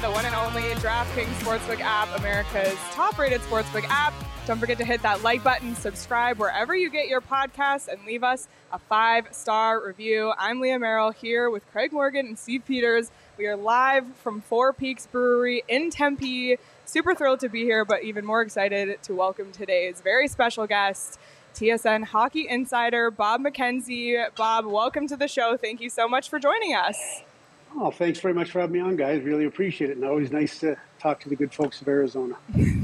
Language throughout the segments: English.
the one and only DraftKings Sportsbook app, America's top-rated sportsbook app. Don't forget to hit that like button, subscribe wherever you get your podcasts, and leave us a 5-star review. I'm Leah Merrill here with Craig Morgan and Steve Peters. We are live from Four Peaks Brewery in Tempe. Super thrilled to be here, but even more excited to welcome today's very special guest, TSN Hockey Insider Bob McKenzie. Bob, welcome to the show. Thank you so much for joining us. Oh, thanks very much for having me on, guys. Really appreciate it. And always nice to talk to the good folks of Arizona.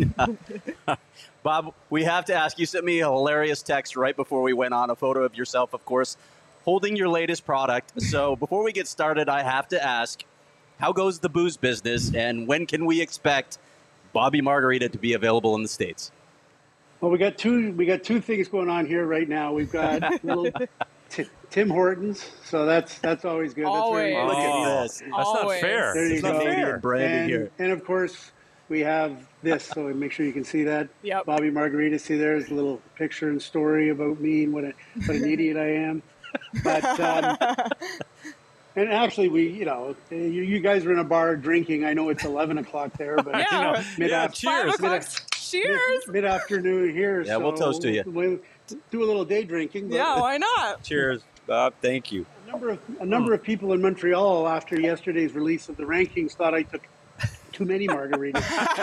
Bob, we have to ask, you sent me a hilarious text right before we went on, a photo of yourself, of course, holding your latest product. So before we get started, I have to ask, how goes the booze business, and when can we expect Bobby Margarita to be available in the States? Well, we got two things going on here right now. We've got little Tim Hortons, so that's always good. Always. Look at this. That's not fair. There you It's go. not fair. Branded here. And of course, we have this, so make sure you can see that. Yep. Bobby Margarita. See, there's a little picture and story about me and what an idiot I am. But and actually, you guys are in a bar drinking. I know it's 11 o'clock there, but Cheers. 5 o'clock. Cheers. Mid-afternoon here. Yeah, we'll toast to you. We'll do a little day drinking. But Yeah, why not? Cheers, Bob. Thank you. A number of people in Montreal after yesterday's release of the rankings thought I took too many margaritas.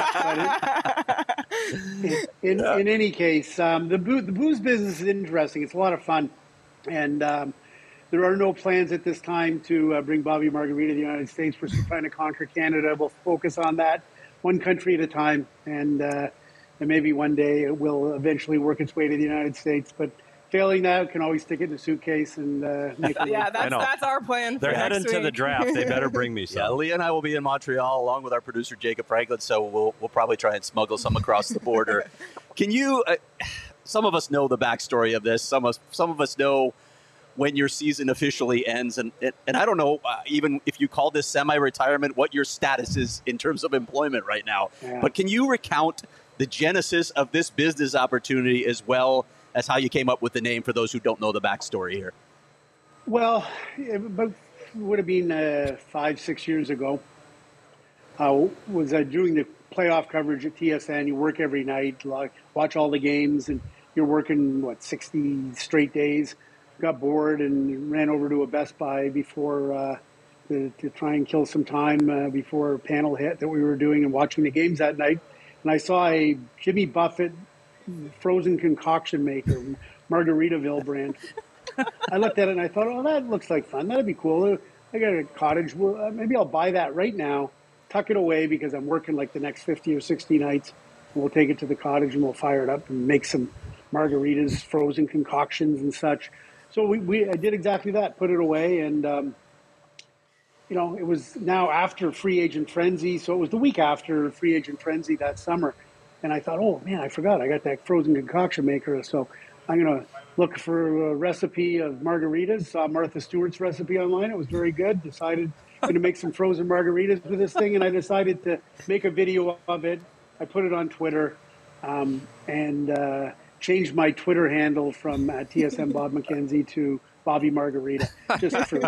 in any case, the booze business is interesting. It's a lot of fun, and there are no plans at this time to bring Bobby Margarita to the United States. We're still trying to conquer Canada. We'll focus on that one country at a time, and maybe one day it will eventually work its way to the United States. But failing that, we can always stick it in a suitcase and make it. Yeah, that's our plan. They're for heading next to the week. draft. They better bring me some. Yeah, Leah and I will be in Montreal along with our producer, Jacob Franklin, so we'll probably try and smuggle some across the border. Can you, some of us know the backstory of this. Some of us know when your season officially ends. And I don't know, even if you call this semi-retirement, what your status is in terms of employment right now. Yeah. But can you recount the genesis of this business opportunity as well as how you came up with the name for those who don't know the backstory here? Well, it would have been 5-6 years ago. Was doing the playoff coverage at TSN. You work every night, watch all the games, and you're working, 60 straight days. Got bored and ran over to a Best Buy before to try and kill some time before panel hit that we were doing and watching the games that night. And I saw a Jimmy Buffett frozen concoction maker, Margaritaville brand. I looked at it and I thought, oh, that looks like fun. That'd be cool. I got a cottage. Well, maybe I'll buy that right now, tuck it away because I'm working like the next 50 or 60 nights. And we'll take it to the cottage and we'll fire it up and make some margaritas, frozen concoctions and such. So I did exactly that, put it away. And, it was now after free agent frenzy. So it was the week after free agent frenzy that summer. And I thought, oh, man, I forgot. I got that frozen concoction maker. So I'm going to look for a recipe of margaritas. Saw Martha Stewart's recipe online. It was very good. Decided I'm going to make some frozen margaritas with this thing. And I decided to make a video of it. I put it on Twitter and changed my Twitter handle from TSN Bob McKenzie to Bobby Margarita, just for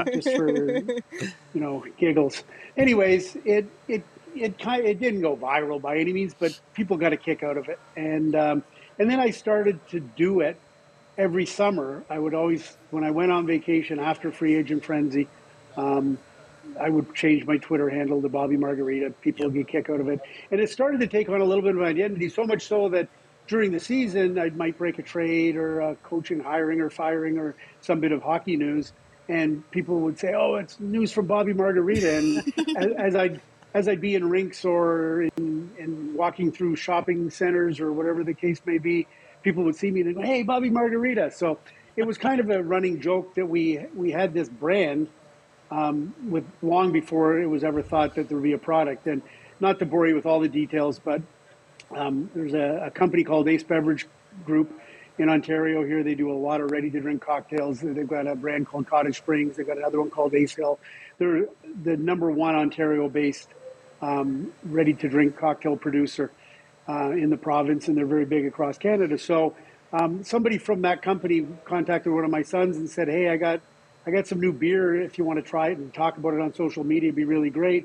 giggles. Anyways, it didn't go viral by any means, but people got a kick out of it. And then I started to do it every summer. I would always, when I went on vacation after free agent frenzy, I would change my Twitter handle to Bobby Margarita. People would get a kick out of it. And it started to take on a little bit of an identity, so much so that during the season, I might break a trade or coaching, hiring or firing or some bit of hockey news. And people would say, oh, it's news from Bobby Margarita. And as I'd be in rinks or in walking through shopping centers or whatever the case may be, people would see me and go, hey, Bobby Margarita. So it was kind of a running joke that we had this brand with long before it was ever thought that there would be a product. And not to bore you with all the details, but there's a company called Ace Beverage Group in Ontario here. They do a lot of ready-to-drink cocktails. They've got a brand called Cottage Springs. They've got another one called Ace Hill. They're the number one Ontario-based ready-to-drink cocktail producer in the province, and they're very big across Canada. So somebody from that company contacted one of my sons and said, hey, I got some new beer. If you want to try it and talk about it on social media, it'd be really great.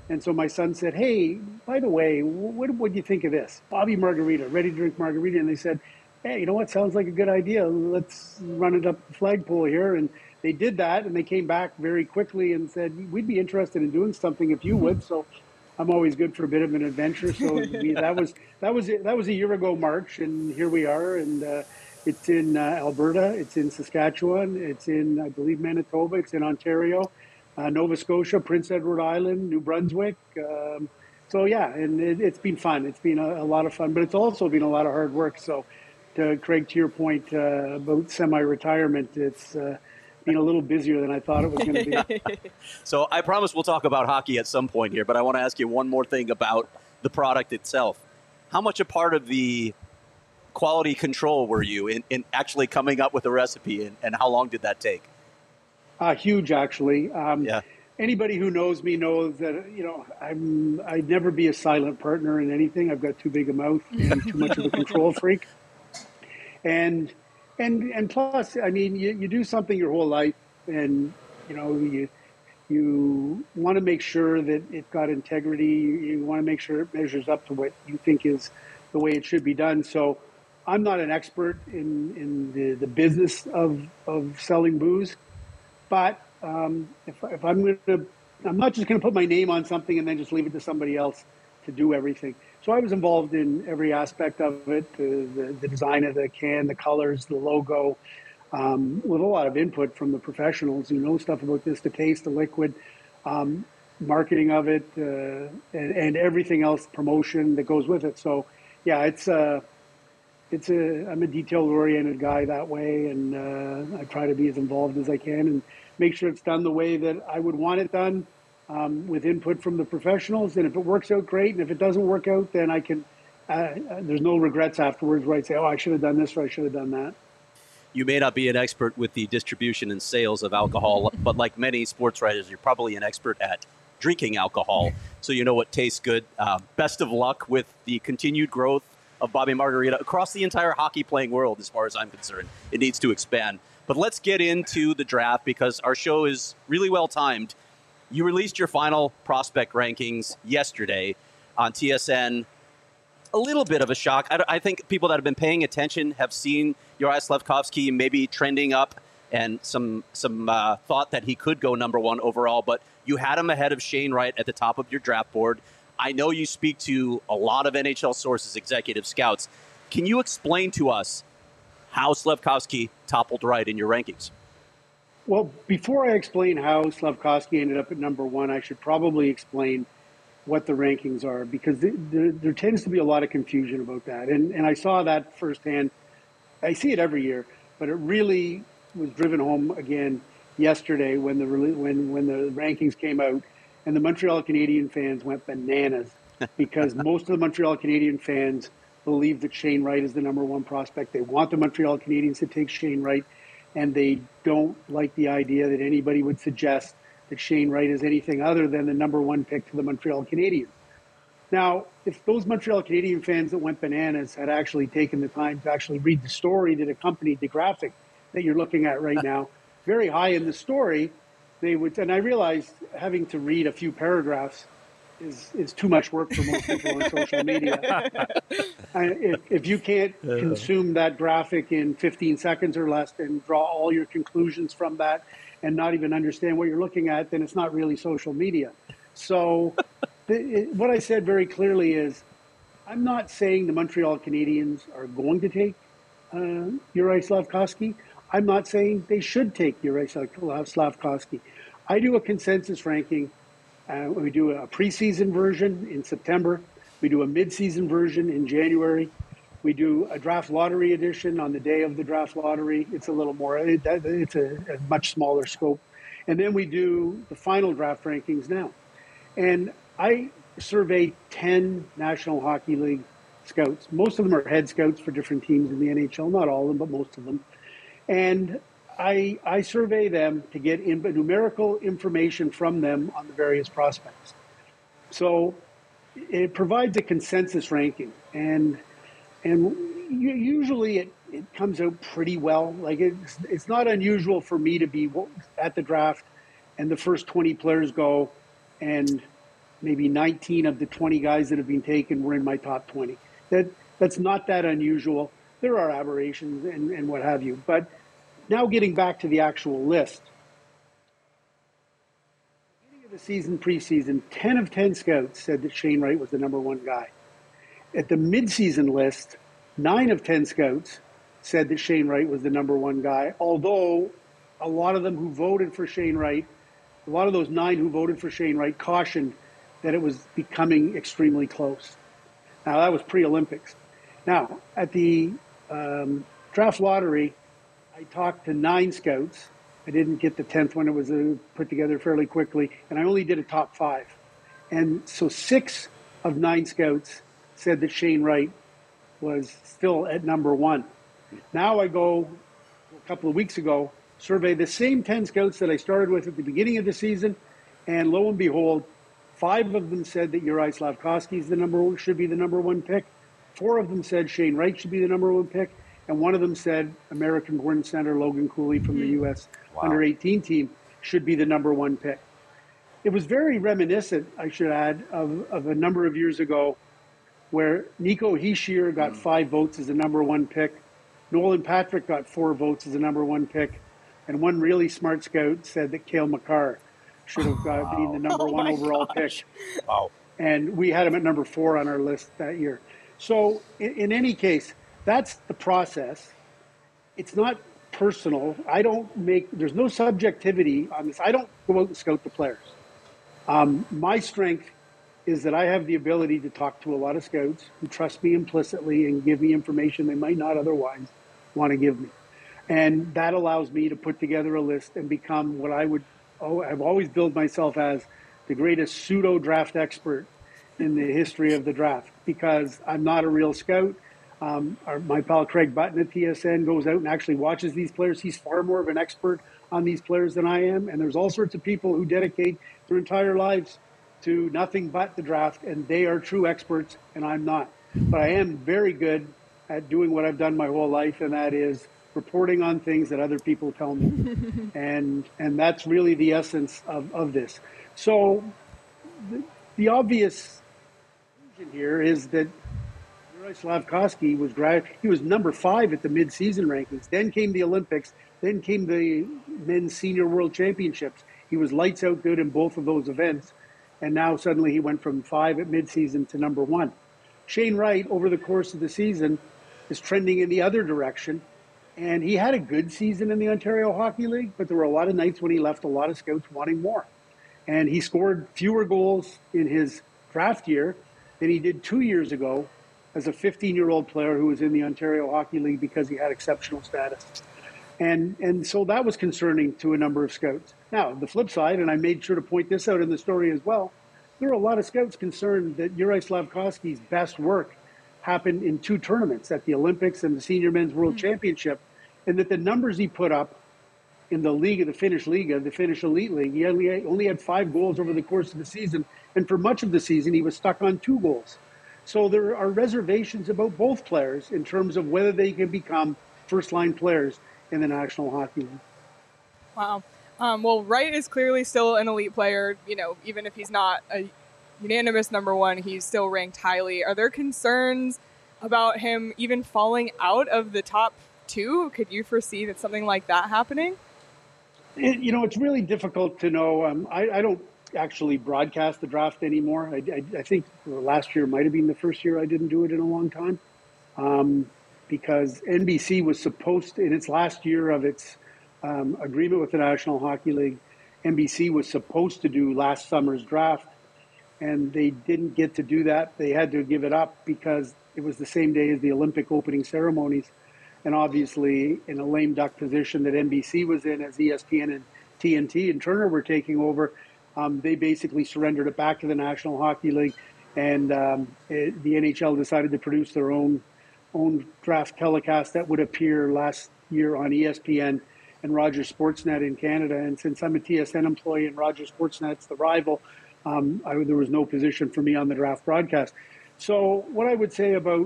And so my son said, hey, by the way, what do you think of this? Bobby Margarita, ready to drink margarita. And they said, hey, you know what? Sounds like a good idea. Let's run it up the flagpole here. And they did that, and they came back very quickly and said, we'd be interested in doing something if you would. So I'm always good for a bit of an adventure. So that was a year ago March, and here we are. And it's in Alberta, it's in Saskatchewan, it's in, I believe, Manitoba, it's in Ontario, Nova Scotia, Prince Edward Island, New Brunswick. So yeah, and it's been fun. It's been a lot of fun, but it's also been a lot of hard work. So, Craig, to your point about semi-retirement, it's been a little busier than I thought it was going to be. So I promise we'll talk about hockey at some point here, but I want to ask you one more thing about the product itself. How much a part of the quality control were you in actually coming up with a recipe, and how long did that take? Huge, actually. Yeah. Anybody who knows me knows that, I'd never be a silent partner in anything. I've got too big a mouth and too much of a control freak. And plus, I mean, you do something your whole life, and you want to make sure that it's got integrity. You want to make sure it measures up to what you think is the way it should be done. So I'm not an expert in the business of selling booze, but if I'm not just going to put my name on something and then just leave it to somebody else to do everything. So I was involved in every aspect of it, the design of the can, the colors, the logo, with a lot of input from the professionals who know stuff about this, the taste, the liquid, marketing of it, and everything else, promotion that goes with it. So yeah, I'm a detail-oriented guy that way, and I try to be as involved as I can and make sure it's done the way that I would want it done, with input from the professionals. And if it works out, great. And if it doesn't work out, then I can. There's no regrets afterwards where I say, "Oh, I should have done this or I should have done that." You may not be an expert with the distribution and sales of alcohol, but like many sports writers, you're probably an expert at drinking alcohol, so you know what tastes good. Best of luck with the continued growth of Bobby Margarita across the entire hockey playing world, as far as I'm concerned. It needs to expand. But let's get into the draft, because our show is really well timed. You released your final prospect rankings yesterday on TSN. A little bit of a shock. I think people that have been paying attention have seen Juraj Slafkovsky maybe trending up, and some thought that he could go number one overall. But you had him ahead of Shane Wright at the top of your draft board. I know you speak to a lot of NHL sources, executive scouts. Can you explain to us how Slafkovsky toppled Wright in your rankings? Well, before I explain how Slafkovsky ended up at number one, I should probably explain what the rankings are, because there tends to be a lot of confusion about that. And I saw that firsthand. I see it every year, but it really was driven home again yesterday when the rankings came out, and the Montreal Canadiens fans went bananas because most of the Montreal Canadiens fans believe that Shane Wright is the number one prospect. They want the Montreal Canadiens to take Shane Wright, and they don't like the idea that anybody would suggest that Shane Wright is anything other than the number one pick to the Montreal Canadiens. Now, if those Montreal Canadiens fans that went bananas had actually taken the time to actually read the story that accompanied the graphic that you're looking at right now, very high in the story, they would, and I realized having to read a few paragraphs is too much work for most people on social media. If you can't consume that graphic in 15 seconds or less and draw all your conclusions from that and not even understand what you're looking at, then it's not really social media. So what I said very clearly is, I'm not saying the Montreal Canadiens are going to take Juraj Slafkovsky. I'm not saying they should take Juraj Slafkovsky. I do a consensus ranking. We do a preseason version in September. We do a midseason version in January. We do a draft lottery edition on the day of the draft lottery. It's a little more, it's a much smaller scope. And then we do the final draft rankings now. And I surveyed 10 National Hockey League scouts. Most of them are head scouts for different teams in the NHL, not all of them, but most of them. And I survey them to get numerical information from them on the various prospects. So it provides a consensus ranking, and usually it comes out pretty well. Like it's not unusual for me to be at the draft and the first 20 players go, and maybe 19 of the 20 guys that have been taken were in my top 20. That's not that unusual. There are aberrations and what have you. But now getting back to the actual list. Beginning of the season, preseason, 10 of 10 scouts said that Shane Wright was the number one guy. At the midseason list, 9 of 10 scouts said that Shane Wright was the number one guy, although a lot of them who voted for Shane Wright, a lot of those 9 who voted for Shane Wright cautioned that it was becoming extremely close. Now, that was pre-Olympics. Now, at the draft lottery, I talked to 9 scouts. I didn't get the 10th one. It was put together fairly quickly, and I only did a top 5. And so 6 of 9 scouts said that Shane Wright was still at number 1. Now I go, a couple of weeks ago, survey the same 10 scouts that I started with at the beginning of the season, and lo and behold, 5 of them said that Juraj Slafkovsky should be the number 1 pick. 4 of them said Shane Wright should be the number 1 pick, and one of them said American-born center Logan Cooley from the U.S. under-18 team should be the number 1 pick. It was very reminiscent, I should add, of a number of years ago where Nico Hischier got 5 votes as the number 1 pick. Nolan Patrick got 4 votes as the number 1 pick. And one really smart scout said that Cale Makar should have been the number 1 overall pick. Wow. And we had him at number 4 on our list that year. So in any case, that's the process. It's not personal. There's no subjectivity on this. I don't go out and scout the players. My strength is that I have the ability to talk to a lot of scouts who trust me implicitly and give me information they might not otherwise want to give me. And that allows me to put together a list and become what I've always billed myself as the greatest pseudo-draft expert in the history of the draft, because I'm not a real scout. My pal Craig Button at TSN goes out and actually watches these players. He's far more of an expert on these players than I am. And there's all sorts of people who dedicate their entire lives to nothing but the draft, and they are true experts, and I'm not. But I am very good at doing what I've done my whole life, and that is reporting on things that other people tell me. and that's really the essence of this. So the obvious conclusion here is that Juraj Slafkovsky was number 5 at the mid-season rankings. Then came the Olympics. Then came the men's senior world championships. He was lights out good in both of those events. And now suddenly he went from 5 at midseason to number 1. Shane Wright, over the course of the season, is trending in the other direction. And he had a good season in the Ontario Hockey League, but there were a lot of nights when he left a lot of scouts wanting more. And he scored fewer goals in his draft year than he did 2 years ago as a 15-year-old player who was in the Ontario Hockey League because he had exceptional status. And so that was concerning to a number of scouts. Now, the flip side, and I made sure to point this out in the story as well, there are a lot of scouts concerned that Juraj Slafkovsky's best work happened in 2 tournaments, at the Olympics and the Senior Men's World Championship, and that the numbers he put up in the league, the Finnish Liga, the Finnish Elite League, he only had 5 goals over the course of the season, and for much of the season he was stuck on 2 goals. So there are reservations about both players in terms of whether they can become first-line players in the National Hockey League. Wow. Well, Wright is clearly still an elite player. Even if he's not a unanimous number 1, he's still ranked highly. Are there concerns about him even falling out of the top 2? Could you foresee that something like that happening? It's really difficult to know. I don't actually broadcast the draft anymore. I think last year might have been the first year I didn't do it in a long time. Because NBC was supposed to, in its last year of its agreement with the National Hockey League, NBC was supposed to do last summer's draft, and they didn't get to do that. They had to give it up because it was the same day as the Olympic opening ceremonies. And obviously, in a lame duck position that NBC was in, as ESPN and TNT and Turner were taking over, they basically surrendered it back to the National Hockey League, and the NHL decided to produce their own draft telecast that would appear last year on ESPN and Rogers Sportsnet in Canada. And since I'm a TSN employee and Rogers Sportsnet's the rival, there was no position for me on the draft broadcast. So what I would say about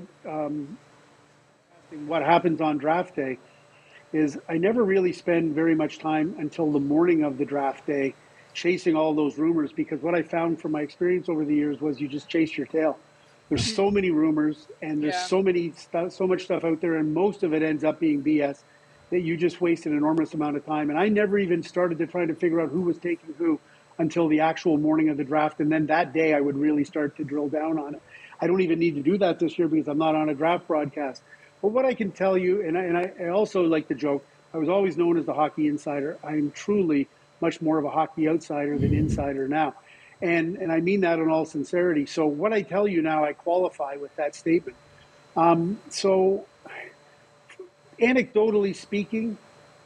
what happens on draft day is I never really spend very much time until the morning of the draft day chasing all those rumors, because what I found from my experience over the years was you just chase your tail. There's so many rumors, and there's so much stuff out there, and most of it ends up being BS that you just waste an enormous amount of time. And I never even started to try to figure out who was taking who until the actual morning of the draft, and then that day I would really start to drill down on it. I don't even need to do that this year because I'm not on a draft broadcast. But what I can tell you, and I also like to joke, I was always known as the hockey insider. I'm truly much more of a hockey outsider than insider now. And I mean that in all sincerity. So what I tell you now, I qualify with that statement. So anecdotally speaking,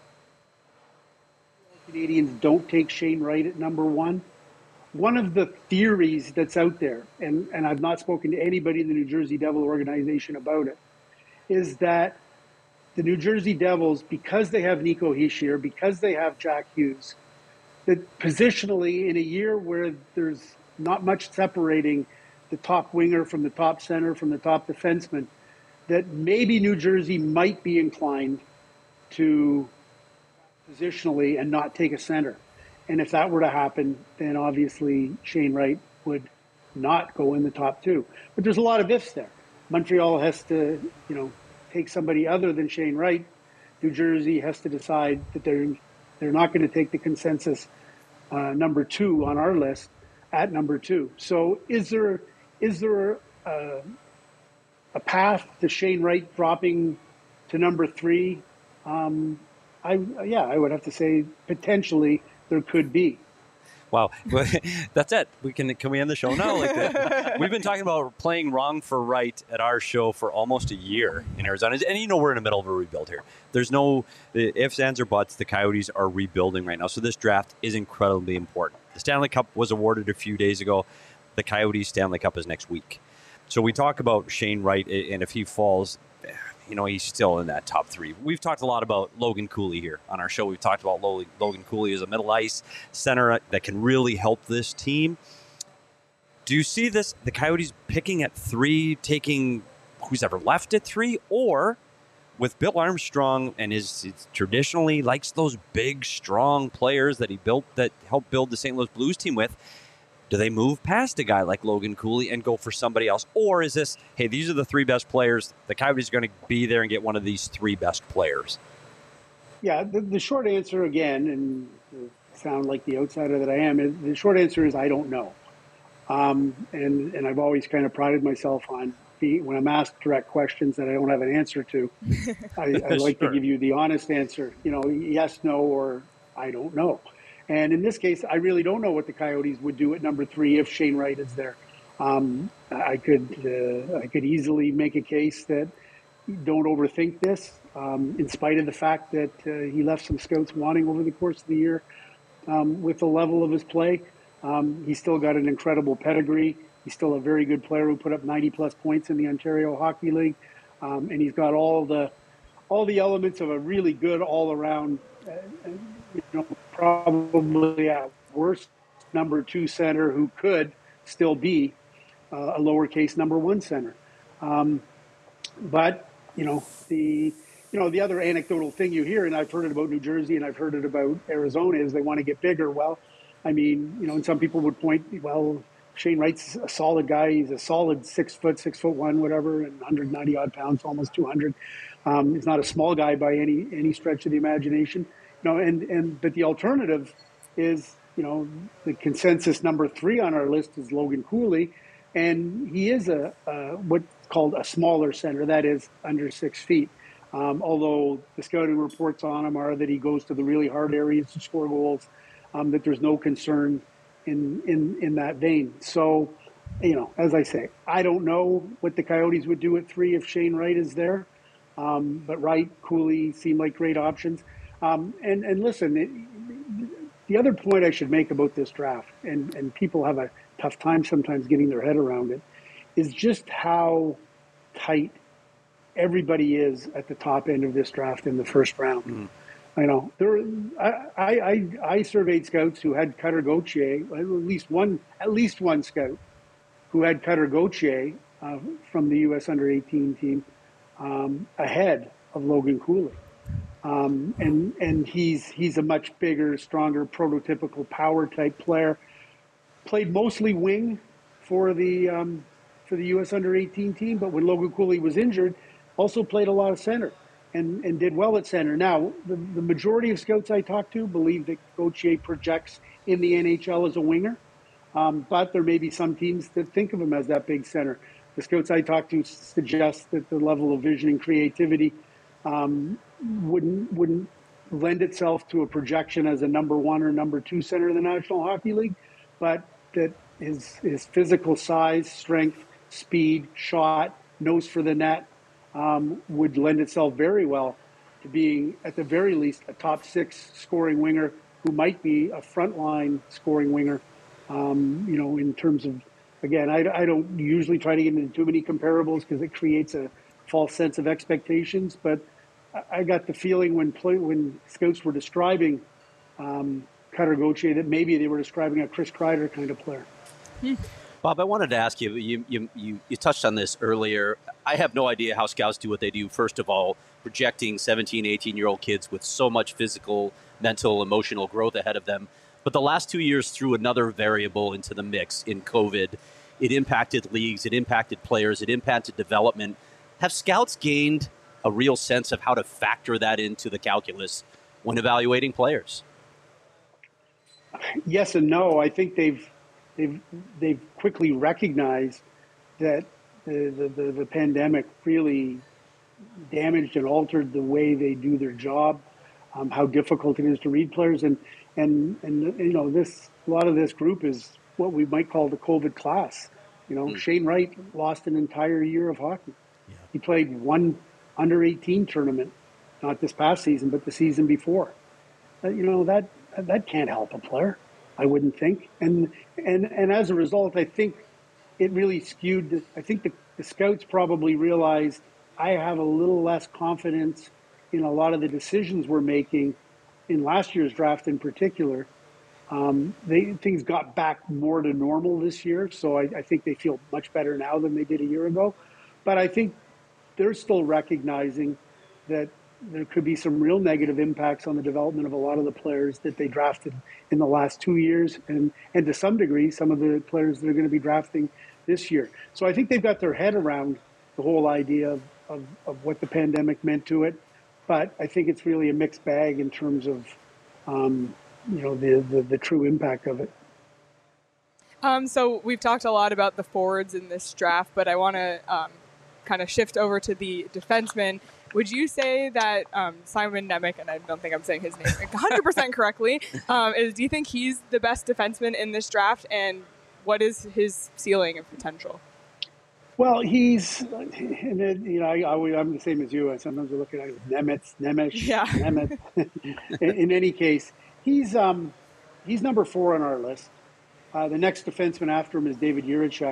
Canadians don't take Shane Wright at number one. One of the theories that's out there, and I've not spoken to anybody in the New Jersey Devil organization about it, is that the New Jersey Devils, because they have Nico Hischier, because they have Jack Hughes, that positionally in a year where there's not much separating the top winger from the top center from the top defenseman, that maybe New Jersey might be inclined to positionally and not take a center. And if that were to happen, then obviously Shane Wright would not go in the top two. But there's a lot of ifs there. Montreal has to, take somebody other than Shane Wright. New Jersey has to decide that they're not going to take the consensus number two on our list at number two. So is there a path to Shane Wright dropping to number three? I would have to say potentially there could be. Wow, that's it. Can we end the show now? Like that? We've been talking about playing wrong for right at our show for almost a year in Arizona, and we're in the middle of a rebuild here. There's no ifs, ands, or buts. The Coyotes are rebuilding right now, so this draft is incredibly important. The Stanley Cup was awarded a few days ago. The Coyotes Stanley Cup is next week. So we talk about Shane Wright, and if he falls, he's still in that top three. We've talked a lot about Logan Cooley here on our show. We've talked about Logan Cooley as a middle ice center that can really help this team. Do you see the Coyotes picking at three, taking who's ever left at three, or with Bill Armstrong and his traditionally likes those big, strong players that he built that helped build the St. Louis Blues team with? Do they move past a guy like Logan Cooley and go for somebody else? Or is this, hey, these are the three best players. The Coyotes are going to be there and get one of these three best players? Yeah, the short answer, again, and sound like the outsider that I am, the short answer is I don't know. And I've always kind of prided myself on when I'm asked direct questions that I don't have an answer to, I like to give you the honest answer, yes, no, or I don't know. And in this case, I really don't know what the Coyotes would do at number three if Shane Wright is there. I could easily make a case that don't overthink this, in spite of the fact that he left some scouts wanting over the course of the year with the level of his play. He's still got an incredible pedigree. He's still a very good player who put up 90-plus points in the Ontario Hockey League, and he's got all the elements of a really good all-around. Probably at worst number two center who could still be a lowercase number one center. But the other anecdotal thing you hear, and I've heard it about New Jersey and I've heard it about Arizona, is they want to get bigger. Well, and some people would point, well, Shane Wright's a solid guy. He's a solid 6 foot, 6'1", whatever, and 190 odd pounds, almost 200. He's not a small guy by any stretch of the imagination. But the alternative is, the consensus number three on our list is Logan Cooley, and he is what's called a smaller center, that is under 6 feet. Although the scouting reports on him are that he goes to the really hard areas to score goals, that there's no concern in that vein. So, as I say, I don't know what the Coyotes would do at three if Shane Wright is there, but Wright, Cooley seem like great options. And listen, the other point I should make about this draft, and people have a tough time sometimes getting their head around it, is just how tight everybody is at the top end of this draft in the first round. I surveyed scouts who had Cutter Gauthier, at least one scout who had Cutter Gauthier from the U.S. Under-18 team ahead of Logan Cooley. and he's a much bigger, stronger, prototypical power type player. Played mostly wing for the U.S. Under-18 team, but when Logan Cooley was injured, also played a lot of center and did well at center. Now, the majority of scouts I talk to believe that Gauthier projects in the NHL as a winger, but there may be some teams that think of him as that big center. The scouts I talk to suggest that the level of vision and creativity wouldn't lend itself to a projection as a number one or number two center in the National Hockey League, but that his physical size, strength, speed, shot, nose for the net would lend itself very well to being, at the very least, a top six scoring winger who might be a frontline scoring winger. In terms of, again, I don't usually try to get into too many comparables because it creates a false sense of expectations, but I got the feeling when scouts were describing Cutter Gauthier that maybe they were describing a Chris Kreider kind of player. Bob, I wanted to ask you, you touched on this earlier. I have no idea how scouts do what they do. First of all, projecting 17, 18-year-old kids with so much physical, mental, emotional growth ahead of them. But the last 2 years threw another variable into the mix in COVID. It impacted leagues, it impacted players, it impacted development. Have scouts gained a real sense of how to factor that into the calculus when evaluating players? Yes and no. I think they've quickly recognized that the pandemic really damaged and altered the way they do their job, how difficult it is to read players, and this, a lot of this group is what we might call the COVID class. Shane Wright lost an entire year of hockey. Yeah. He played one under-18 tournament, not this past season, but the season before. That can't help a player, I wouldn't think. And as a result, I think it really skewed. I think the scouts probably realized I have a little less confidence in a lot of the decisions we're making in last year's draft in particular. Things got back more to normal this year, so I think they feel much better now than they did a year ago. But I think they're still recognizing that there could be some real negative impacts on the development of a lot of the players that they drafted in the last 2 years, and to some degree, some of the players that are going to be drafting this year. So I think they've got their head around the whole idea of what the pandemic meant to it. But I think it's really a mixed bag in terms of, the true impact of it. So we've talked a lot about the forwards in this draft, but I want to kind of shift over to the defensemen. Would you say that Simon Nemec, and I don't think I'm saying his name 100% correctly, do you think he's the best defenseman in this draft, and what is his ceiling of potential? Well, I'm the same as you. I sometimes look at it as Nemec. In any case, he's number 4 on our list. The next defenseman after him is David Jiricek,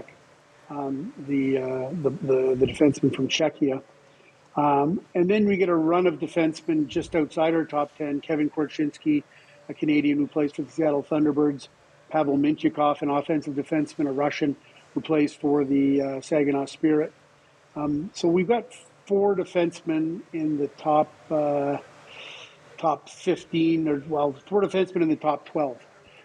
the defenseman from Czechia. And then we get a run of defensemen just outside our top 10. Kevin Korchinski, a Canadian who plays for the Seattle Thunderbirds. Pavel Mintyukov, an offensive defenseman, a Russian who plays for the Saginaw Spirit. So we've got 4 defensemen in the top 15, 4 defensemen in the top 12.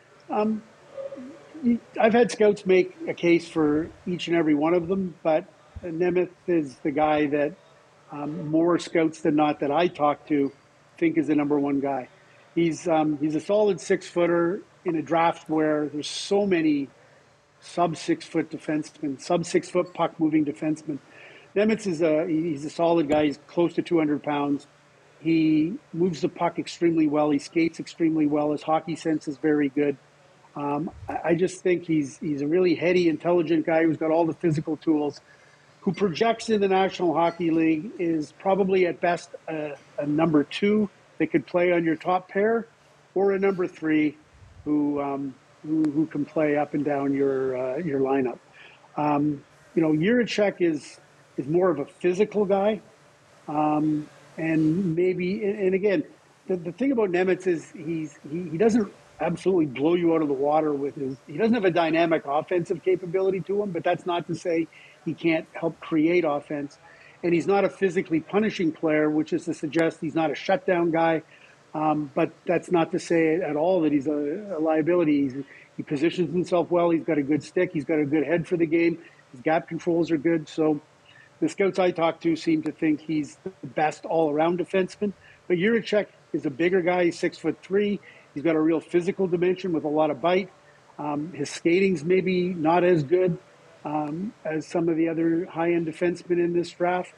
I've had scouts make a case for each and every one of them, but Nemeth is the guy that more scouts than not that I talk to think is the number one guy. He's a solid 6-footer in a draft where there's so many sub 6-foot defensemen, sub 6-foot puck moving defensemen. Nemeth he's a solid guy. He's close to 200 pounds. He moves the puck extremely well. He skates extremely well. His hockey sense is very good. I just think he's a really heady, intelligent guy who's got all the physical tools, who projects in the National Hockey League, is probably at best a number 2 that could play on your top pair, or a number 3 who can play up and down your lineup. Jiricek is more of a physical guy, and again, the thing about Nemeth is he doesn't absolutely blow you out of the water with he doesn't have a dynamic offensive capability to him, but that's not to say he can't help create offense. and he's not a physically punishing player, which is to suggest he's not a shutdown guy. But that's not to say at all that he's a liability. He positions himself well. He's got a good stick. He's got a good head for the game. His gap controls are good. So the scouts I talked to seem to think he's the best all-around defenseman. But Jiricek is a bigger guy. He's 6'3". He's got a real physical dimension with a lot of bite. His skating's maybe not as good as some of the other high-end defensemen in this draft.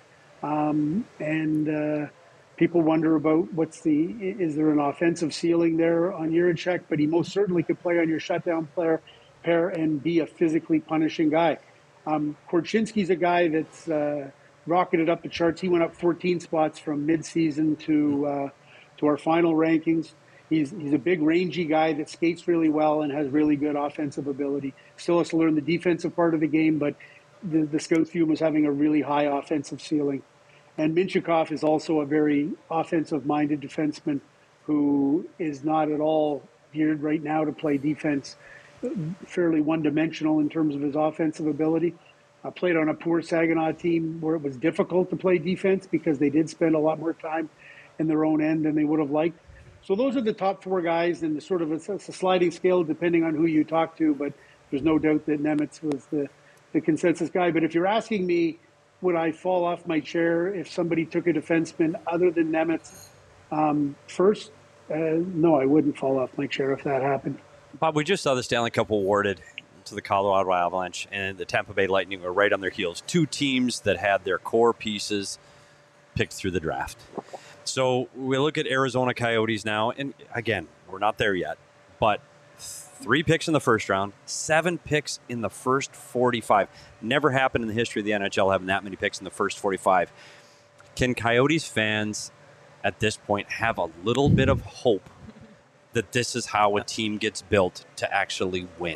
People wonder about is there an offensive ceiling there on Jiricek? But he most certainly could play on your shutdown pair and be a physically punishing guy. Korchinski's a guy that's rocketed up the charts. He went up 14 spots from midseason to our final rankings. He's a big, rangy guy that skates really well and has really good offensive ability. Still has to learn the defensive part of the game, but the scouts view him as having a really high offensive ceiling. And Minchikov is also a very offensive-minded defenseman who is not at all geared right now to play defense, fairly one-dimensional in terms of his offensive ability. I played on a poor Saginaw team where it was difficult to play defense because they did spend a lot more time in their own end than they would have liked. So those are the top four guys, and sort of it's a sliding scale depending on who you talk to, but there's no doubt that Nemetz was the consensus guy. But if you're asking me, would I fall off my chair if somebody took a defenseman other than Nemetz first? No, I wouldn't fall off my chair if that happened. Bob, we just saw the Stanley Cup awarded to the Colorado Avalanche, and the Tampa Bay Lightning were right on their heels. Two teams that had their core pieces picked through the draft. So we look at Arizona Coyotes now, and again, we're not there yet, but 3 picks in the first round, 7 picks in the first 45. Never happened in the history of the NHL having that many picks in the first 45. Can Coyotes fans at this point have a little bit of hope that this is how a team gets built to actually win?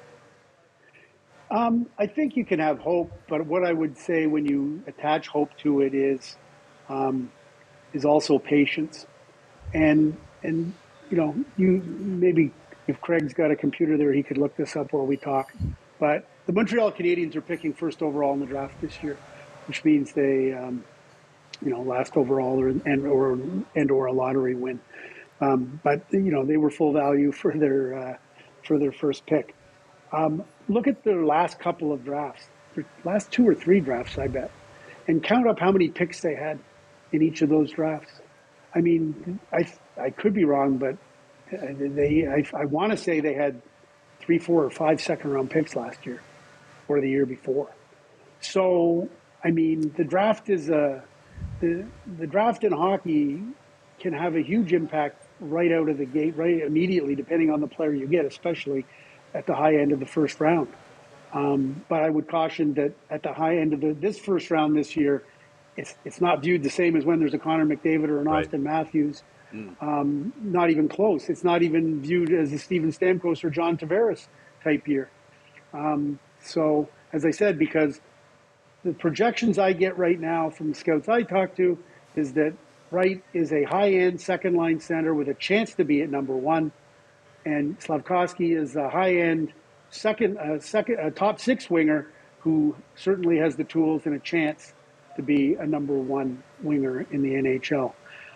I think you can have hope, but what I would say when you attach hope to it is also patience. And you know, you maybe if Craig's got a computer there, he could look this up while we talk. But the Montreal Canadiens are picking first overall in the draft this year, which means they, last overall or a lottery win. But you know, they were full value for their first pick. Look at their last couple of drafts, their last 2 or 3 drafts, I bet, and count up how many picks they had in each of those drafts. I mean, I could be wrong, but I want to say they had 3, 4, or 5 second-round picks last year or the year before. So, I mean, the draft is the draft in hockey can have a huge impact right out of the gate, right immediately, depending on the player you get, especially at the high end of the first round. But I would caution that at the high end of this first round this year, it's not viewed the same as when there's a Connor McDavid or an Austin Matthews. Not even close. It's not even viewed as a Steven Stamkos or John Tavares type year. So, as I said, because the projections I get right now from the scouts I talk to is that Wright is a high-end second-line center with a chance to be at number 1, and Slavkovsky is a high-end top 6 winger who certainly has the tools and a chance to be a number 1 winger in the NHL.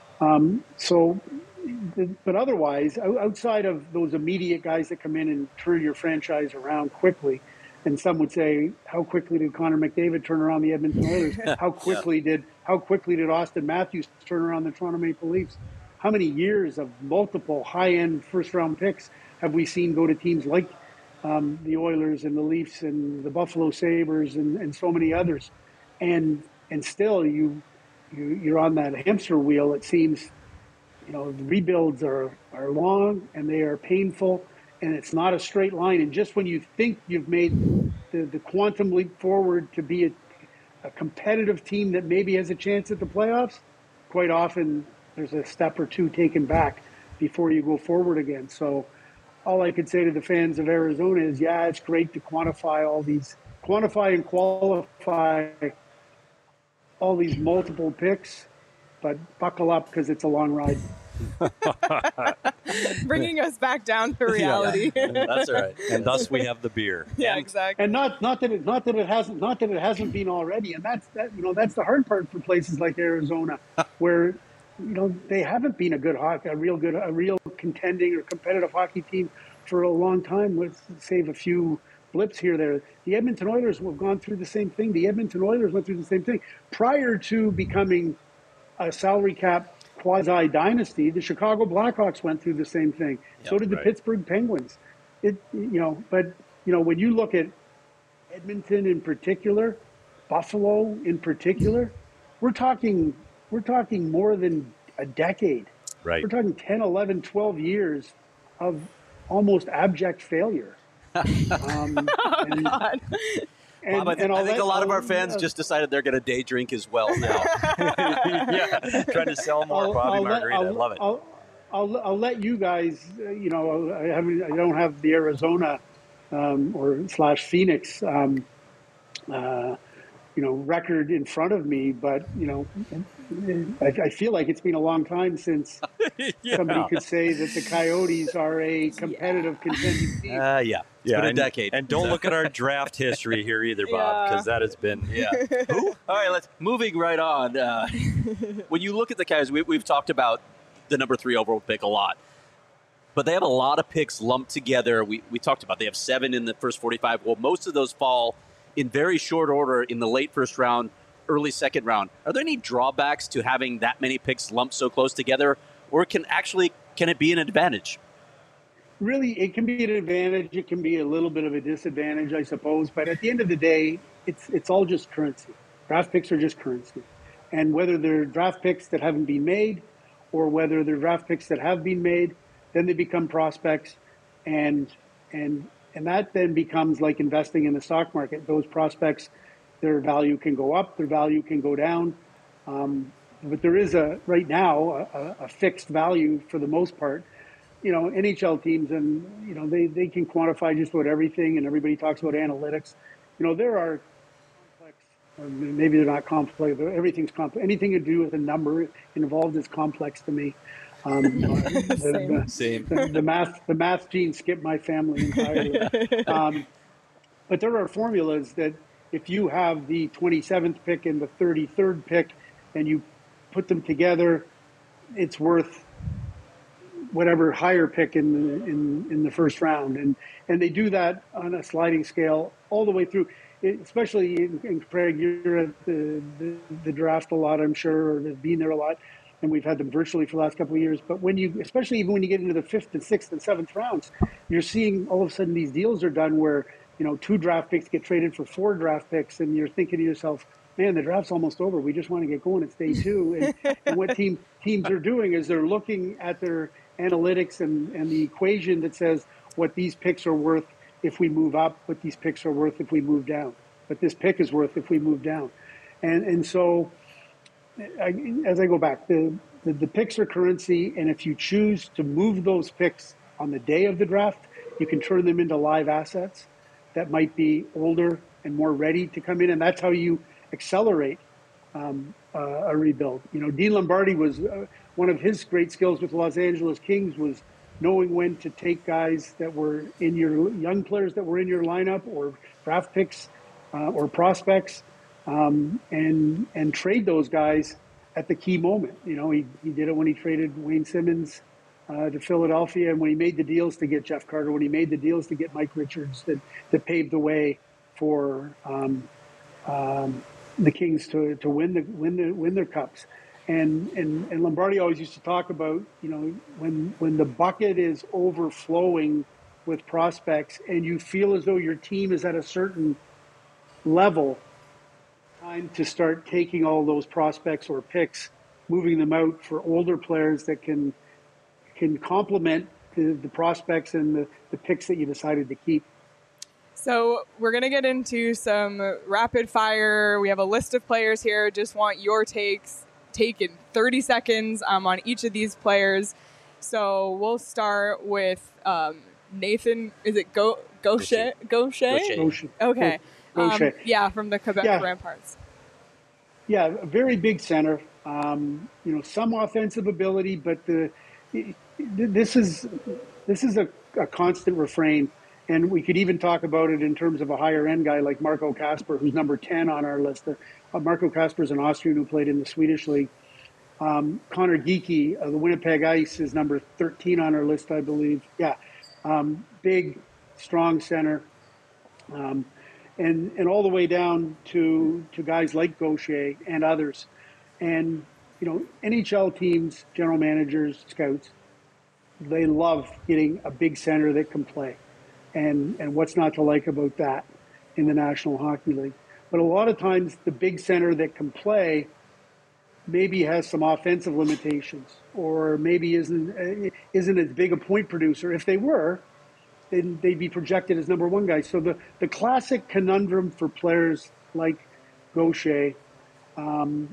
But otherwise, outside of those immediate guys that come in and turn your franchise around quickly, and some would say, how quickly did Connor McDavid turn around the Edmonton Oilers? How quickly did Austin Matthews turn around the Toronto Maple Leafs? How many years of multiple high-end first-round picks have we seen go to teams like the Oilers and the Leafs and the Buffalo Sabres and so many others? And still, you're on that hamster wheel. It seems, the rebuilds are long and they are painful, and it's not a straight line. And just when you think you've made the quantum leap forward to be a competitive team that maybe has a chance at the playoffs, quite often there's a step or two taken back before you go forward again. So all I could say to the fans of Arizona is, yeah, it's great to quantify and qualify all these multiple picks, but buckle up because it's a long ride. Bringing us back down to reality. That's all right. And thus we have the beer. Yeah, exactly. And not that it hasn't been already. And that's the hard part for places like Arizona, where they haven't been a real contending or competitive hockey team for a long time, with save a few blips here or there. The Edmonton Oilers have gone through the same thing. The Edmonton Oilers went through the same thing prior to becoming a salary cap quasi dynasty. The Chicago Blackhawks went through the same thing. So did the Pittsburgh Penguins. But when you look at Edmonton in particular, Buffalo in particular, we're talking more than a decade. Right. We're talking 10, 11, 12 years of almost abject failure. Bob, I think a lot of our fans just decided they're going to day drink as well now. Yeah, trying to sell more Bobby Margarita. I love it. I'll let you guys. I don't have the Arizona or Phoenix record in front of me, but I feel like it's been a long time since somebody could say that the Coyotes are a competitive contending team. It's been a decade. And don't look at our draft history here either, Bob, because that has been Who? All right, moving right on. When you look at the Coyotes, we've talked about the number 3 overall pick a lot, but they have a lot of picks lumped together. We talked about they have 7 in the first 45. Well, most of those fall in very short order in the late first round, early second round. Are there any drawbacks to having that many picks lumped so close together, or can it be an advantage? Really, it can be an advantage. It can be a little bit of a disadvantage, I suppose. But at the end of the day, it's all just currency. Draft picks are just currency. And whether they're draft picks that haven't been made or whether they're draft picks that have been made, then they become prospects. And that then becomes like investing in the stock market. Those prospects, their value can go up, their value can go down. But there is right now a fixed value for the most part. NHL teams, and they can quantify just about everything, and everybody talks about analytics. There are complex, or maybe they're not complex, but everything's complex. Anything to do with a number involved is complex to me. Same. The math gene skipped my family entirely. But there are formulas that if you have the 27th pick and the 33rd pick, and you put them together, it's worth whatever higher pick in the first round, and they do that on a sliding scale all the way through. Especially in Craig, you're at the draft a lot, I'm sure, or have been there a lot, and we've had them virtually for the last couple of years. But especially even when you get into the 5th and 6th and 7th rounds, you're seeing all of a sudden these deals are done where 2 draft picks get traded for 4 draft picks, and you're thinking to yourself, man, the draft's almost over. We just want to get going. It's day 2. And what teams are doing is they're looking at their analytics and the equation that says what these picks are worth if we move up, what these picks are worth if we move down, what this pick is worth if we move down. And so as I go back, the picks are currency, and if you choose to move those picks on the day of the draft, you can turn them into live assets that might be older and more ready to come in, and that's how you accelerate a rebuild. Dean Lombardi was one of his great skills with the Los Angeles Kings was knowing when to take guys that were in your young players that were in your lineup or draft picks or prospects and trade those guys at the key moment. He did it when he traded Wayne Simmons to Philadelphia, and when he made the deals to get Jeff Carter, when he made the deals to get Mike Richards, that paved the way for the Kings to win their cups. And Lombardi always used to talk about, when the bucket is overflowing with prospects and you feel as though your team is at a certain level, time to start taking all those prospects or picks, moving them out for older players that can complement the prospects and the picks that you decided to keep. So we're going to get into some rapid fire. We have a list of players here. Just want your takes taken 30 seconds on each of these players. So we'll start with Nathan. Is it Gaucher? Okay. Gaucher. From the Quebec Ramparts. Yeah, a very big center. Some offensive ability, but this is a constant refrain, and we could even talk about it in terms of a higher end guy like Marco Kasper, who's number 10 on our list. Marco Kasper is an Austrian who played in the Swedish league. Connor Geekie of the Winnipeg Ice is number 13 on our list, I believe. Yeah, big, strong center, and all the way down to guys like Gaucher and others. And NHL teams, general managers, scouts, they love getting a big center that can play. And what's not to like about that in the National Hockey League? But a lot of times the big center that can play maybe has some offensive limitations, or maybe isn't as big a point producer. If they were, then they'd be projected as number one guys. So the classic conundrum for players like Gaucher, and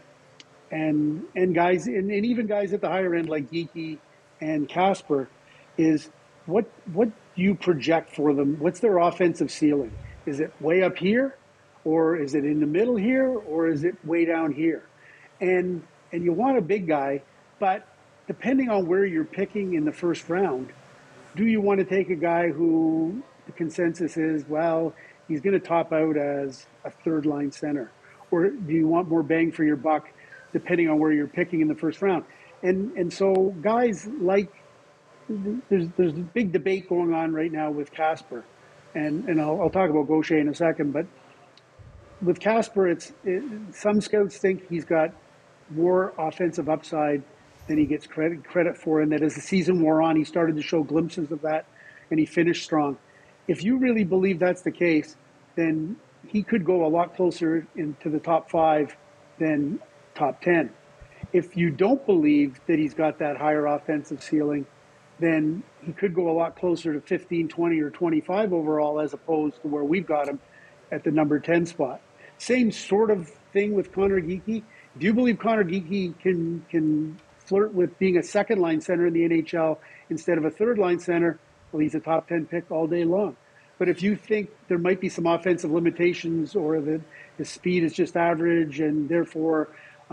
guys, and even guys at the higher end like Geekie and Kasper, is what do you project for them? What's their offensive ceiling? Is it way up here, or is it in the middle here, or is it way down here? And you want a big guy, but depending on where you're picking in the first round, do you want to take a guy who the consensus is, well, he's going to top out as a third line center? Or do you want more bang for your buck depending on where you're picking in the first round? And so guys like, there's a big debate going on right now with Kasper. And I'll talk about Gaucher in a second, but with Kasper, some scouts think he's got more offensive upside than he gets credit for, and that as the season wore on, he started to show glimpses of that, and he finished strong. If you really believe that's the case, then he could go a lot closer into the top 5 than top 10. If you don't believe that he's got that higher offensive ceiling, then he could go a lot closer to 15, 20, or 25 overall, as opposed to where we've got him at the number 10 spot. Same sort of thing with Connor Geekie. Do you believe Connor Geekie can flirt with being a second line center in the NHL instead of a third line center? Well, he's a top 10 pick all day long. But if you think there might be some offensive limitations, or that his speed is just average and therefore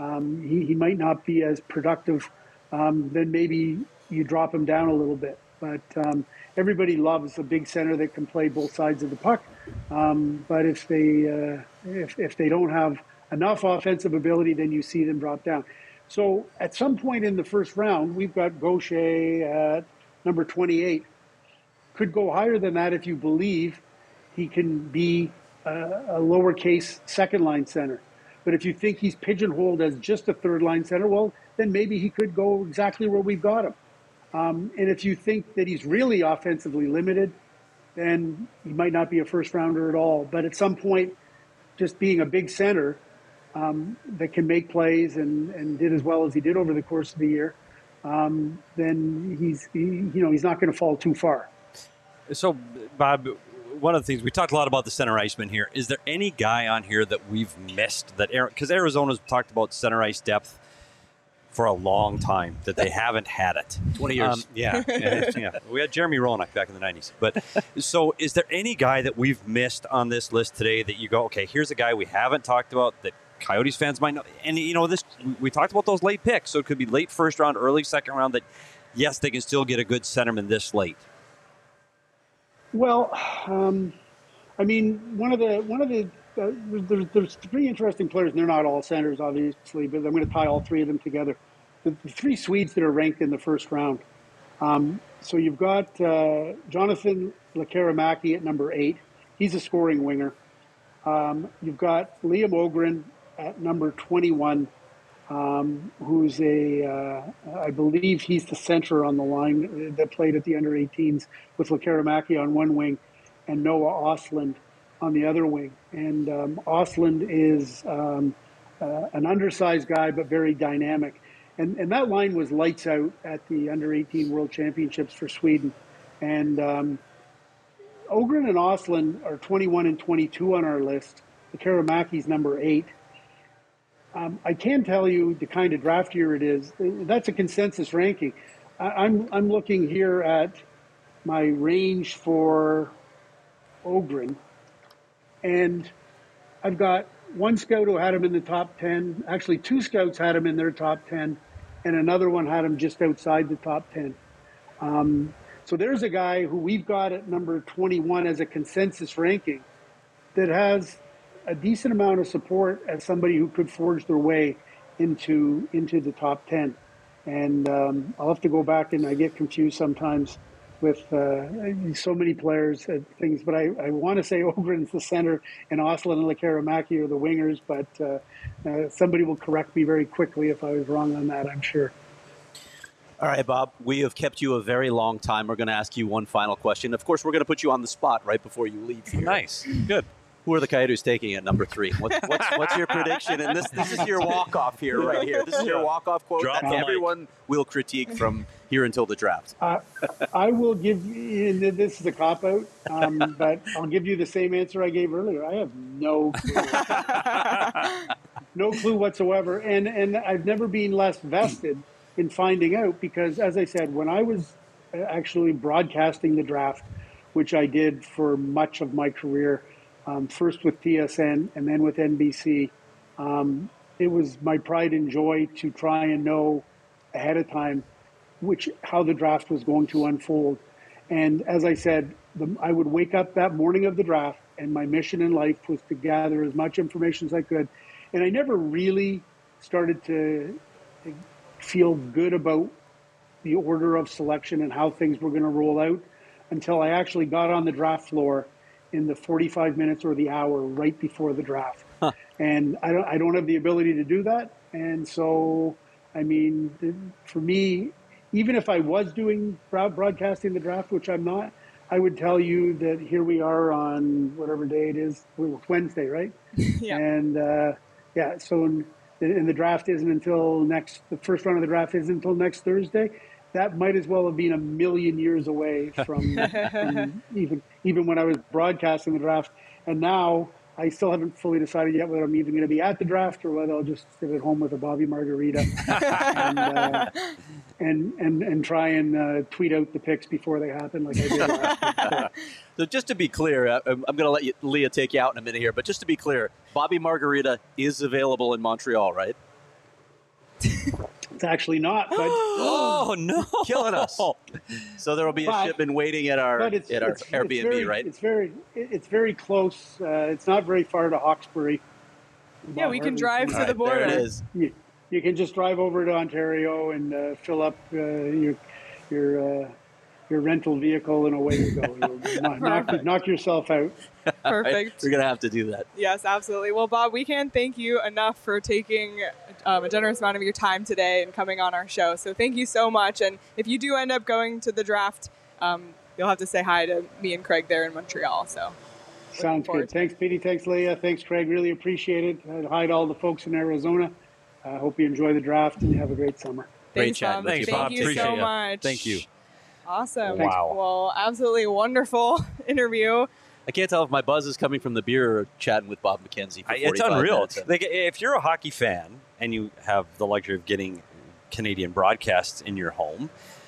he might not be as productive, then maybe you drop him down a little bit. But everybody loves a big center that can play both sides of the puck. But if they don't have enough offensive ability, then you see them drop down. So at some point in the first round, we've got Gaucher at number 28. Could go higher than that if you believe he can be a lowercase second line center. But if you think he's pigeonholed as just a third line center, well, then maybe he could go exactly where we've got him. And if you think that he's really offensively limited, then he might not be a first rounder at all. But at some point, just being a big center that can make plays and did as well as he did over the course of the year, then he's not going to fall too far. So, Bob, one of the things we talked a lot about the center iceman here. Is there any guy on here that we've missed that because Arizona's talked about center ice depth for a long time, that they haven't had it. 20 years. Yeah. We had Jeremy Roenick back in the 90s. But so is there any guy that we've missed on this list today that you go, okay, here's a guy we haven't talked about that Coyotes fans might know? And, this we talked about those late picks, so it could be late first round, early second round, that, yes, they can still get a good centerman this late. Well, I mean, there's 3 interesting players, and they're not all centers, obviously, but I'm going to tie all 3 of them together. The 3 Swedes that are ranked in the first round. So you've got Jonathan Lekaramäki at number 8. He's a scoring winger. You've got Liam Ogren at number 21, who's I believe he's the center on the line that played at the under-18s with Lekaramäki on one wing and Noah Ostlund on the other wing. And Ostlund is an undersized guy, but very dynamic. And that line was lights out at the under-18 World Championships for Sweden. And Ogren and Ostlund are 21 and 22 on our list. Lekaramäki's number 8. I can tell you the kind of draft year it is. That's a consensus ranking. I'm looking here at my range for Ogren, and I've got one scout who had him in the top 10. Actually, 2 scouts had him in their top 10. and another one had him just outside the top 10. So there's a guy who we've got at number 21 as a consensus ranking that has a decent amount of support as somebody who could forge their way into the top 10. And I'll have to go back, and I get confused sometimes with so many players and things, but I want to say Ogren's the center and Oslin and Lekaramaki are the wingers, but somebody will correct me very quickly if I was wrong on that, I'm sure. All right, Bob, we have kept you a very long time. We're going to ask you one final question. Of course, we're going to put you on the spot right before you leave here. Nice. Good. Who are the Coyotes taking at number 3? What's your prediction? And this is your walk-off here, right here. This is your walk-off quote Drop that the everyone will critique from here until the draft. I will give you, this is a cop-out, but I'll give you the same answer I gave earlier. I have no clue. No clue whatsoever. And I've never been less vested in finding out because, as I said, when I was actually broadcasting the draft, which I did for much of my career, first with TSN and then with NBC, it was my pride and joy to try and know ahead of time how the draft was going to unfold. And as I said, I would wake up that morning of the draft, and my mission in life was to gather as much information as I could. And I never really started to feel good about the order of selection and how things were going to roll out until I actually got on the draft floor in the 45 minutes or the hour right before the draft. And I don't have the ability to do that. And so, I mean, for me, even if I was doing broadcasting the draft, which I'm not, I would tell you that here we are on whatever day it is, Wednesday, right? Yeah. And so and the draft isn't until the first round of the draft isn't until next Thursday. That might as well have been a million years away from even when I was broadcasting the draft. And now I still haven't fully decided yet whether I'm even going to be at the draft or whether I'll just sit at home with a Bobby Margarita and try and tweet out the picks before they happen like I did last year. So just to be clear, I'm going to let Leah take you out in a minute here, but just to be clear, Bobby Margarita is available in Montreal, right? It's actually not, but Oh, no. Killing us. So there will be a shipment waiting at our Airbnb, right? It's very close. It's not very far to Hawkesbury. Yeah, we can drive to the border. There it is. You can just drive over to Ontario and fill up your rental vehicle, and away you go. You'll knock yourself out. Perfect. We're going to have to do that. Yes, absolutely. Well, Bob, we can't thank you enough for taking a generous amount of your time today and coming on our show. So thank you so much. And if you do end up going to the draft, you'll have to say hi to me and Craig there in Montreal. So sounds good. Thanks, Petey. Thanks, Leah. Thanks, Craig. Really appreciate it. Hi to all the folks in Arizona. I hope you enjoy the draft and you have a great summer. Great chat. Thanks, Bob. Thank you so much. Thank you. Awesome. Wow. Well, absolutely wonderful interview. I can't tell if my buzz is coming from the beer or chatting with Bob McKenzie for 45 It's unreal. minutes. Like, if you're a hockey fan and you have the luxury of getting Canadian broadcasts in your home,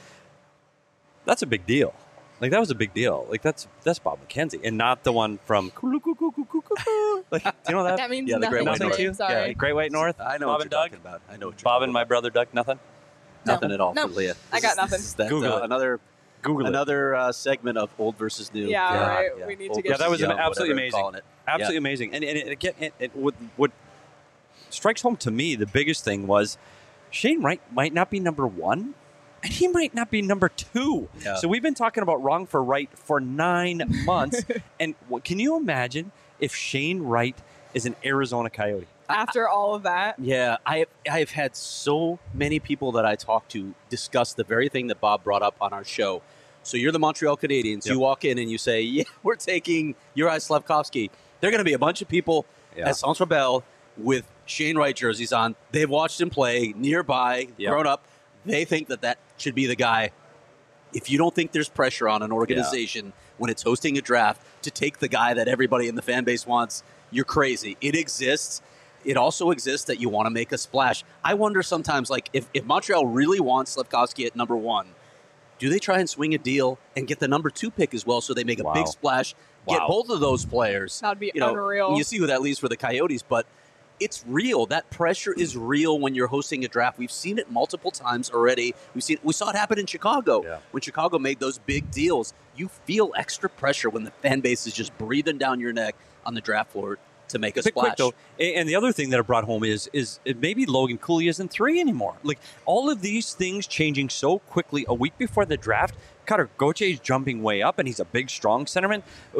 that's a big deal. Like, that was a big deal. Like, that's Bob McKenzie and not the one from like, do you know that? That means Yeah, the nothing Great White to North. me. Yeah, Sorry. Great White North? I know Bob what and you're Doug? talking about. I know what you're Bob talking and my brother Doug, nothing? Nothing at all No. for Leah. I got nothing. This is that, Google it. Another segment of old versus new. Yeah, right. We need to get Old that was versus young, absolutely whatever amazing. calling it. Absolutely amazing. And again, what strikes home to me, the biggest thing was Shane Wright might not be number 1, and he might not be number 2. Yeah. So we've been talking about wrong for right for 9 months. And can you imagine if Shane Wright is an Arizona Coyote? After all of that. Yeah, I've had so many people that I talk to discuss the very thing that Bob brought up on our show. So you're the Montreal Canadiens. Yep. You walk in and you say, yeah, we're taking Juraj Slafkovsky. There are going to be a bunch of people at Centre Bell with Shane Wright jerseys on. They've watched him play nearby, grown up. They think that should be the guy. If you don't think there's pressure on an organization when it's hosting a draft to take the guy that everybody in the fan base wants, you're crazy. It exists. It also exists that you want to make a splash. I wonder sometimes, like, if Montreal really wants Slafkovsky at number 1, do they try and swing a deal and get the number 2 pick as well so they make a big splash, get both of those players? That'd be unreal. You see who that leaves for the Coyotes, but it's real. That pressure is real when you're hosting a draft. We've seen it multiple times already. We saw it happen in Chicago. When Chicago made those big deals. You feel extra pressure when the fan base is just breathing down your neck on the draft floor to make a splash. Quick, though, and the other thing that it brought home is maybe Logan Cooley isn't 3 anymore. Like, all of these things changing so quickly a week before the draft. Cutter Gauthier is jumping way up, and he's a big, strong centerman.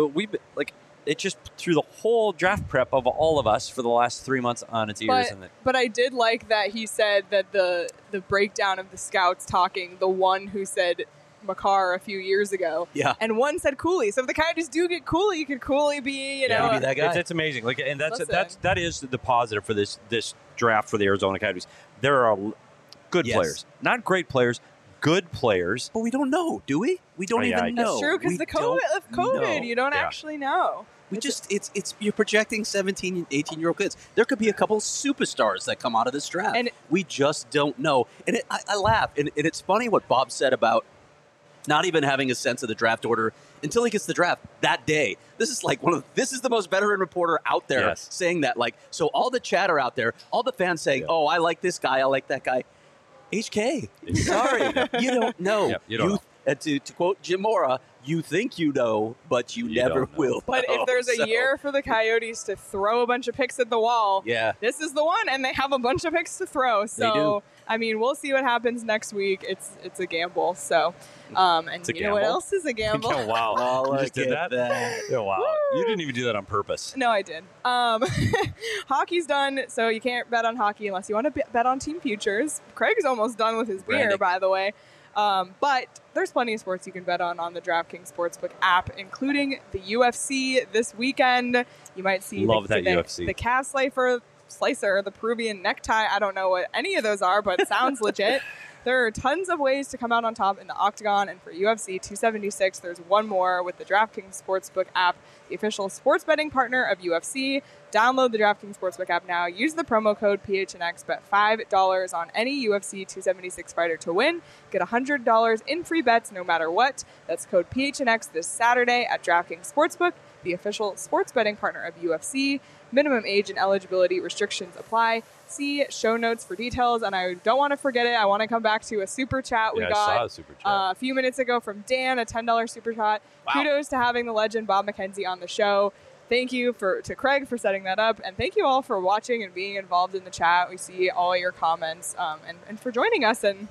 It just threw the whole draft prep of all of us for the last 3 months on its ears. But I did like that he said that the breakdown of the scouts talking, the one who said Makar a few years ago, and one said Cooley. So if the Coyotes do get Cooley, could Cooley be, be that guy? It's amazing. Like, and that is the positive for this draft for the Arizona Coyotes. There are good players, not great players, good players. But we don't know, do we? We don't even know. That's true, because the COVID, you don't actually know. You're projecting 17, 18-year-old kids. There could be a couple superstars that come out of this draft. And we just don't know. And I laugh. And it's funny what Bob said about not even having a sense of the draft order until he gets the draft that day. This is like this is the most veteran reporter out there saying that. Like, so all the chatter out there, all the fans saying, "Oh, I like this guy, I like that guy." HK, sorry, you don't know. You don't know. To quote Jim Mora, you think you know, but you never will. But if there's a year for the Coyotes to throw a bunch of picks at the wall, this is the one, and they have a bunch of picks to throw. So, I mean, we'll see what happens next week. It's a gamble. So, and you know what else is a gamble? Oh, wow. You just did that? Oh, wow. Woo! You didn't even do that on purpose. No, I did. Hockey's done, so you can't bet on hockey unless you want to bet on team futures. Craig's almost done with his beer, by the way. But there's plenty of sports you can bet on the DraftKings Sportsbook app, including the UFC this weekend. You might see UFC. The calf slicer, the Peruvian necktie. I don't know what any of those are, but it sounds legit. There are tons of ways to come out on top in the Octagon, and for UFC 276, there's one more with the DraftKings Sportsbook app, the official sports betting partner of UFC. Download the DraftKings Sportsbook app now. Use the promo code PHNX. Bet $5 on any UFC 276 fighter to win. Get $100 in free bets no matter what. That's code PHNX this Saturday at DraftKings Sportsbook, the official sports betting partner of UFC. Minimum age and eligibility restrictions apply. See show notes for details. And I don't want to forget it. I want to come back to a super chat we got I saw a super chat. A few minutes ago from Dan, a $10 super chat. Wow. Kudos to having the legend Bob McKenzie on the show. Thank you to Craig for setting that up. And thank you all for watching and being involved in the chat. We see all your comments and for joining us. And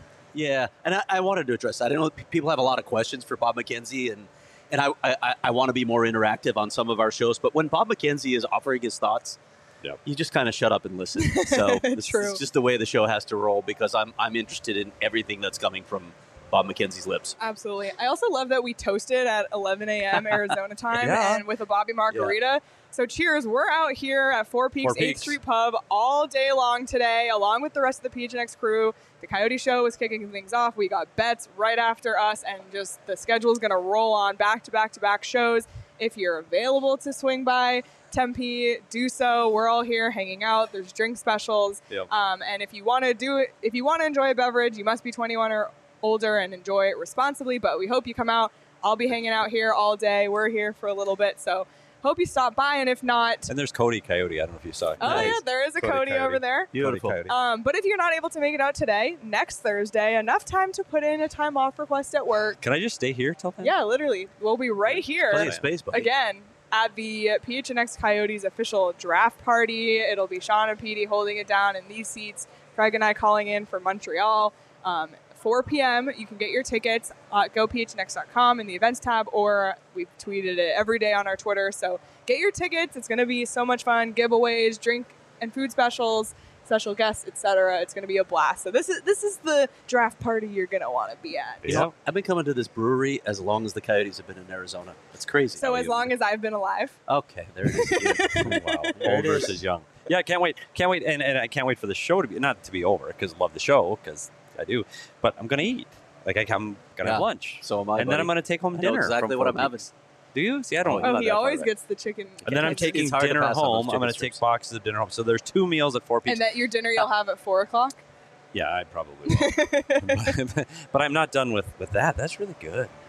I wanted to address that. I know people have a lot of questions for Bob McKenzie, and I want to be more interactive on some of our shows. But when Bob McKenzie is offering his thoughts, you just kind of shut up and listen. So it's just the way the show has to roll, because I'm interested in everything that's coming from Bob McKenzie's lips. Absolutely. I also love that we toasted at 11 a.m. Arizona time and with a Bobby Margarita. Yeah. So cheers. We're out here at Four Peaks 8th Street Pub all day long today, along with the rest of the PHNX crew. The Coyote Show is kicking things off. We got bets right after us, and just the schedule is going to roll on back-to-back-to-back shows. If you're available to swing by Tempe, do so. We're all here hanging out. There's drink specials. Yep. And if you want to enjoy a beverage, you must be 21 or older and enjoy it responsibly. But we hope you come out. I'll be hanging out here all day. We're here for a little bit, so hope you stop by, and if not... And there's Cody Coyote. I don't know if you saw it. Oh, nice. Yeah, there is a Cody over there. Beautiful. But if you're not able to make it out today, next Thursday, enough time to put in a time off request at work. Can I just stay here till then? Yeah, literally. We'll be right here. Plenty of space, buddy. Again, at the PHNX Coyotes official draft party. It'll be Sean and Petey holding it down in these seats. Craig and I calling in for Montreal. 4 p.m. You can get your tickets at gophnx.com in the events tab, or we've tweeted it every day on our Twitter. So get your tickets. It's going to be so much fun. Giveaways, drink and food specials, special guests, etc. It's going to be a blast. So this is the draft party you're going to want to be at. Yeah. I've been coming to this brewery as long as the Coyotes have been in Arizona. It's crazy. So as long as I've been alive. Okay, there it is. Wow. Old versus young. Yeah, I can't wait. And I can't wait for the show to be over, because I love the show, because I do, but I'm going to eat. Like, I'm going to have lunch. So am I, and then I'm going to take home dinner. I know exactly what I'm having. Do you? See, I don't know. Oh, he always gets the chicken. And then I'm taking dinner home. I'm going to take boxes of dinner home. So there's 2 meals at 4 p.m. And that your dinner you'll have at 4 o'clock? Yeah, I probably will. But I'm not done with that. That's really good.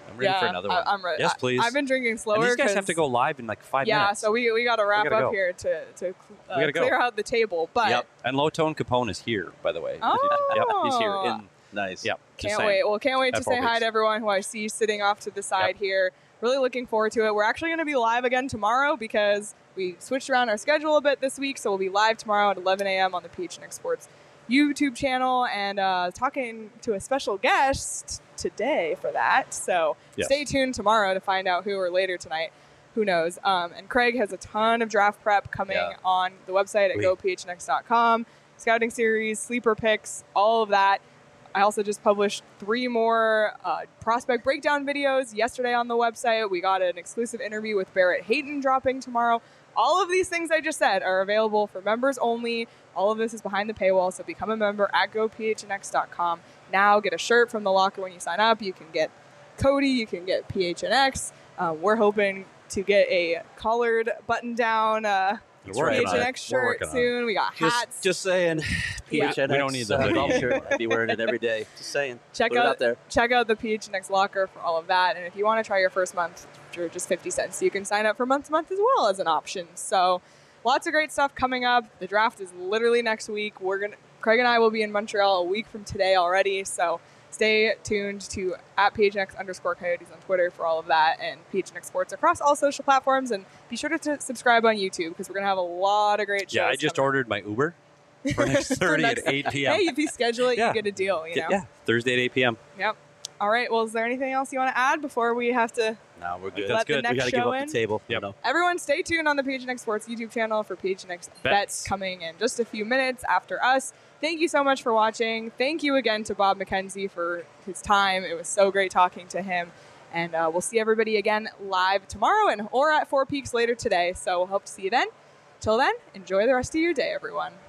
I'm ready for another one. I'm ready. Yes, please. I've been drinking slower. And these guys 'cause- have to go live in like 5 Yeah, minutes. so we got to wrap gotta up go. here to gotta go. clear out the table. But Yep. And Low Tone Capone is here, by the way. Oh. He's here. In, Nice. yep. just Can't saying. wait. Well, can't wait to At say 4 hi weeks. to everyone who I see sitting off to the side Yep. here. Really looking forward to it. We're actually going to be live again tomorrow because we switched around our schedule a bit this week. So we'll be live tomorrow at 11 a.m. on the PHNX Sports YouTube channel and talking to a special guest today for that. So Yes. stay tuned tomorrow to find out who, or later tonight. Who knows? And Craig has a ton of draft prep coming Yeah. on the website at Sweet. gophnx.com. Scouting series, sleeper picks, all of that. I also just published 3 more prospect breakdown videos yesterday on the website. We got an exclusive interview with Barrett Hayton dropping tomorrow. All of these things I just said are available for members only. All of this is behind the paywall, so become a member at gophnx.com. Now get a shirt from the locker when you sign up. You can get Cody, you can get PHNX. We're hoping to get a collared button-down We're working on it. PHNX We're shirt working on it. soon. We got hats. Just saying. Yeah. PHNX, We don't need the hoodie golf shirt. anymore. I'd be wearing it every day. Just saying. Check Put it out there. the PHNX locker for all of that. And if you want to try your first month for just 50 cents, you can sign up for month to month as well as an option. So lots of great stuff coming up. The draft is literally next week. Craig and I will be in Montreal a week from today already. So stay tuned to at PHNX_Coyotes on Twitter for all of that, and PHNX Sports across all social platforms. And be sure to subscribe on YouTube because we're going to have a lot of great shows. Yeah, I just coming. ordered my Uber for next For Thursday next- at 8 p.m. Hey, if you schedule it, Yeah. you get a deal, you know? Yeah, Thursday at 8 p.m. Yep. All right. Well, is there anything else you want to add before we have to? No, we're good. That's Let the good. next We got to show give up in? the table. Yep. You know. Everyone, stay tuned on the PHNX Sports YouTube channel for PHNX Bets coming in just a few minutes after us. Thank you so much for watching. Thank you again to Bob McKenzie for his time. It was so great talking to him. And we'll see everybody again live tomorrow or at Four Peaks later today. So we'll hope to see you then. Till then, enjoy the rest of your day, everyone.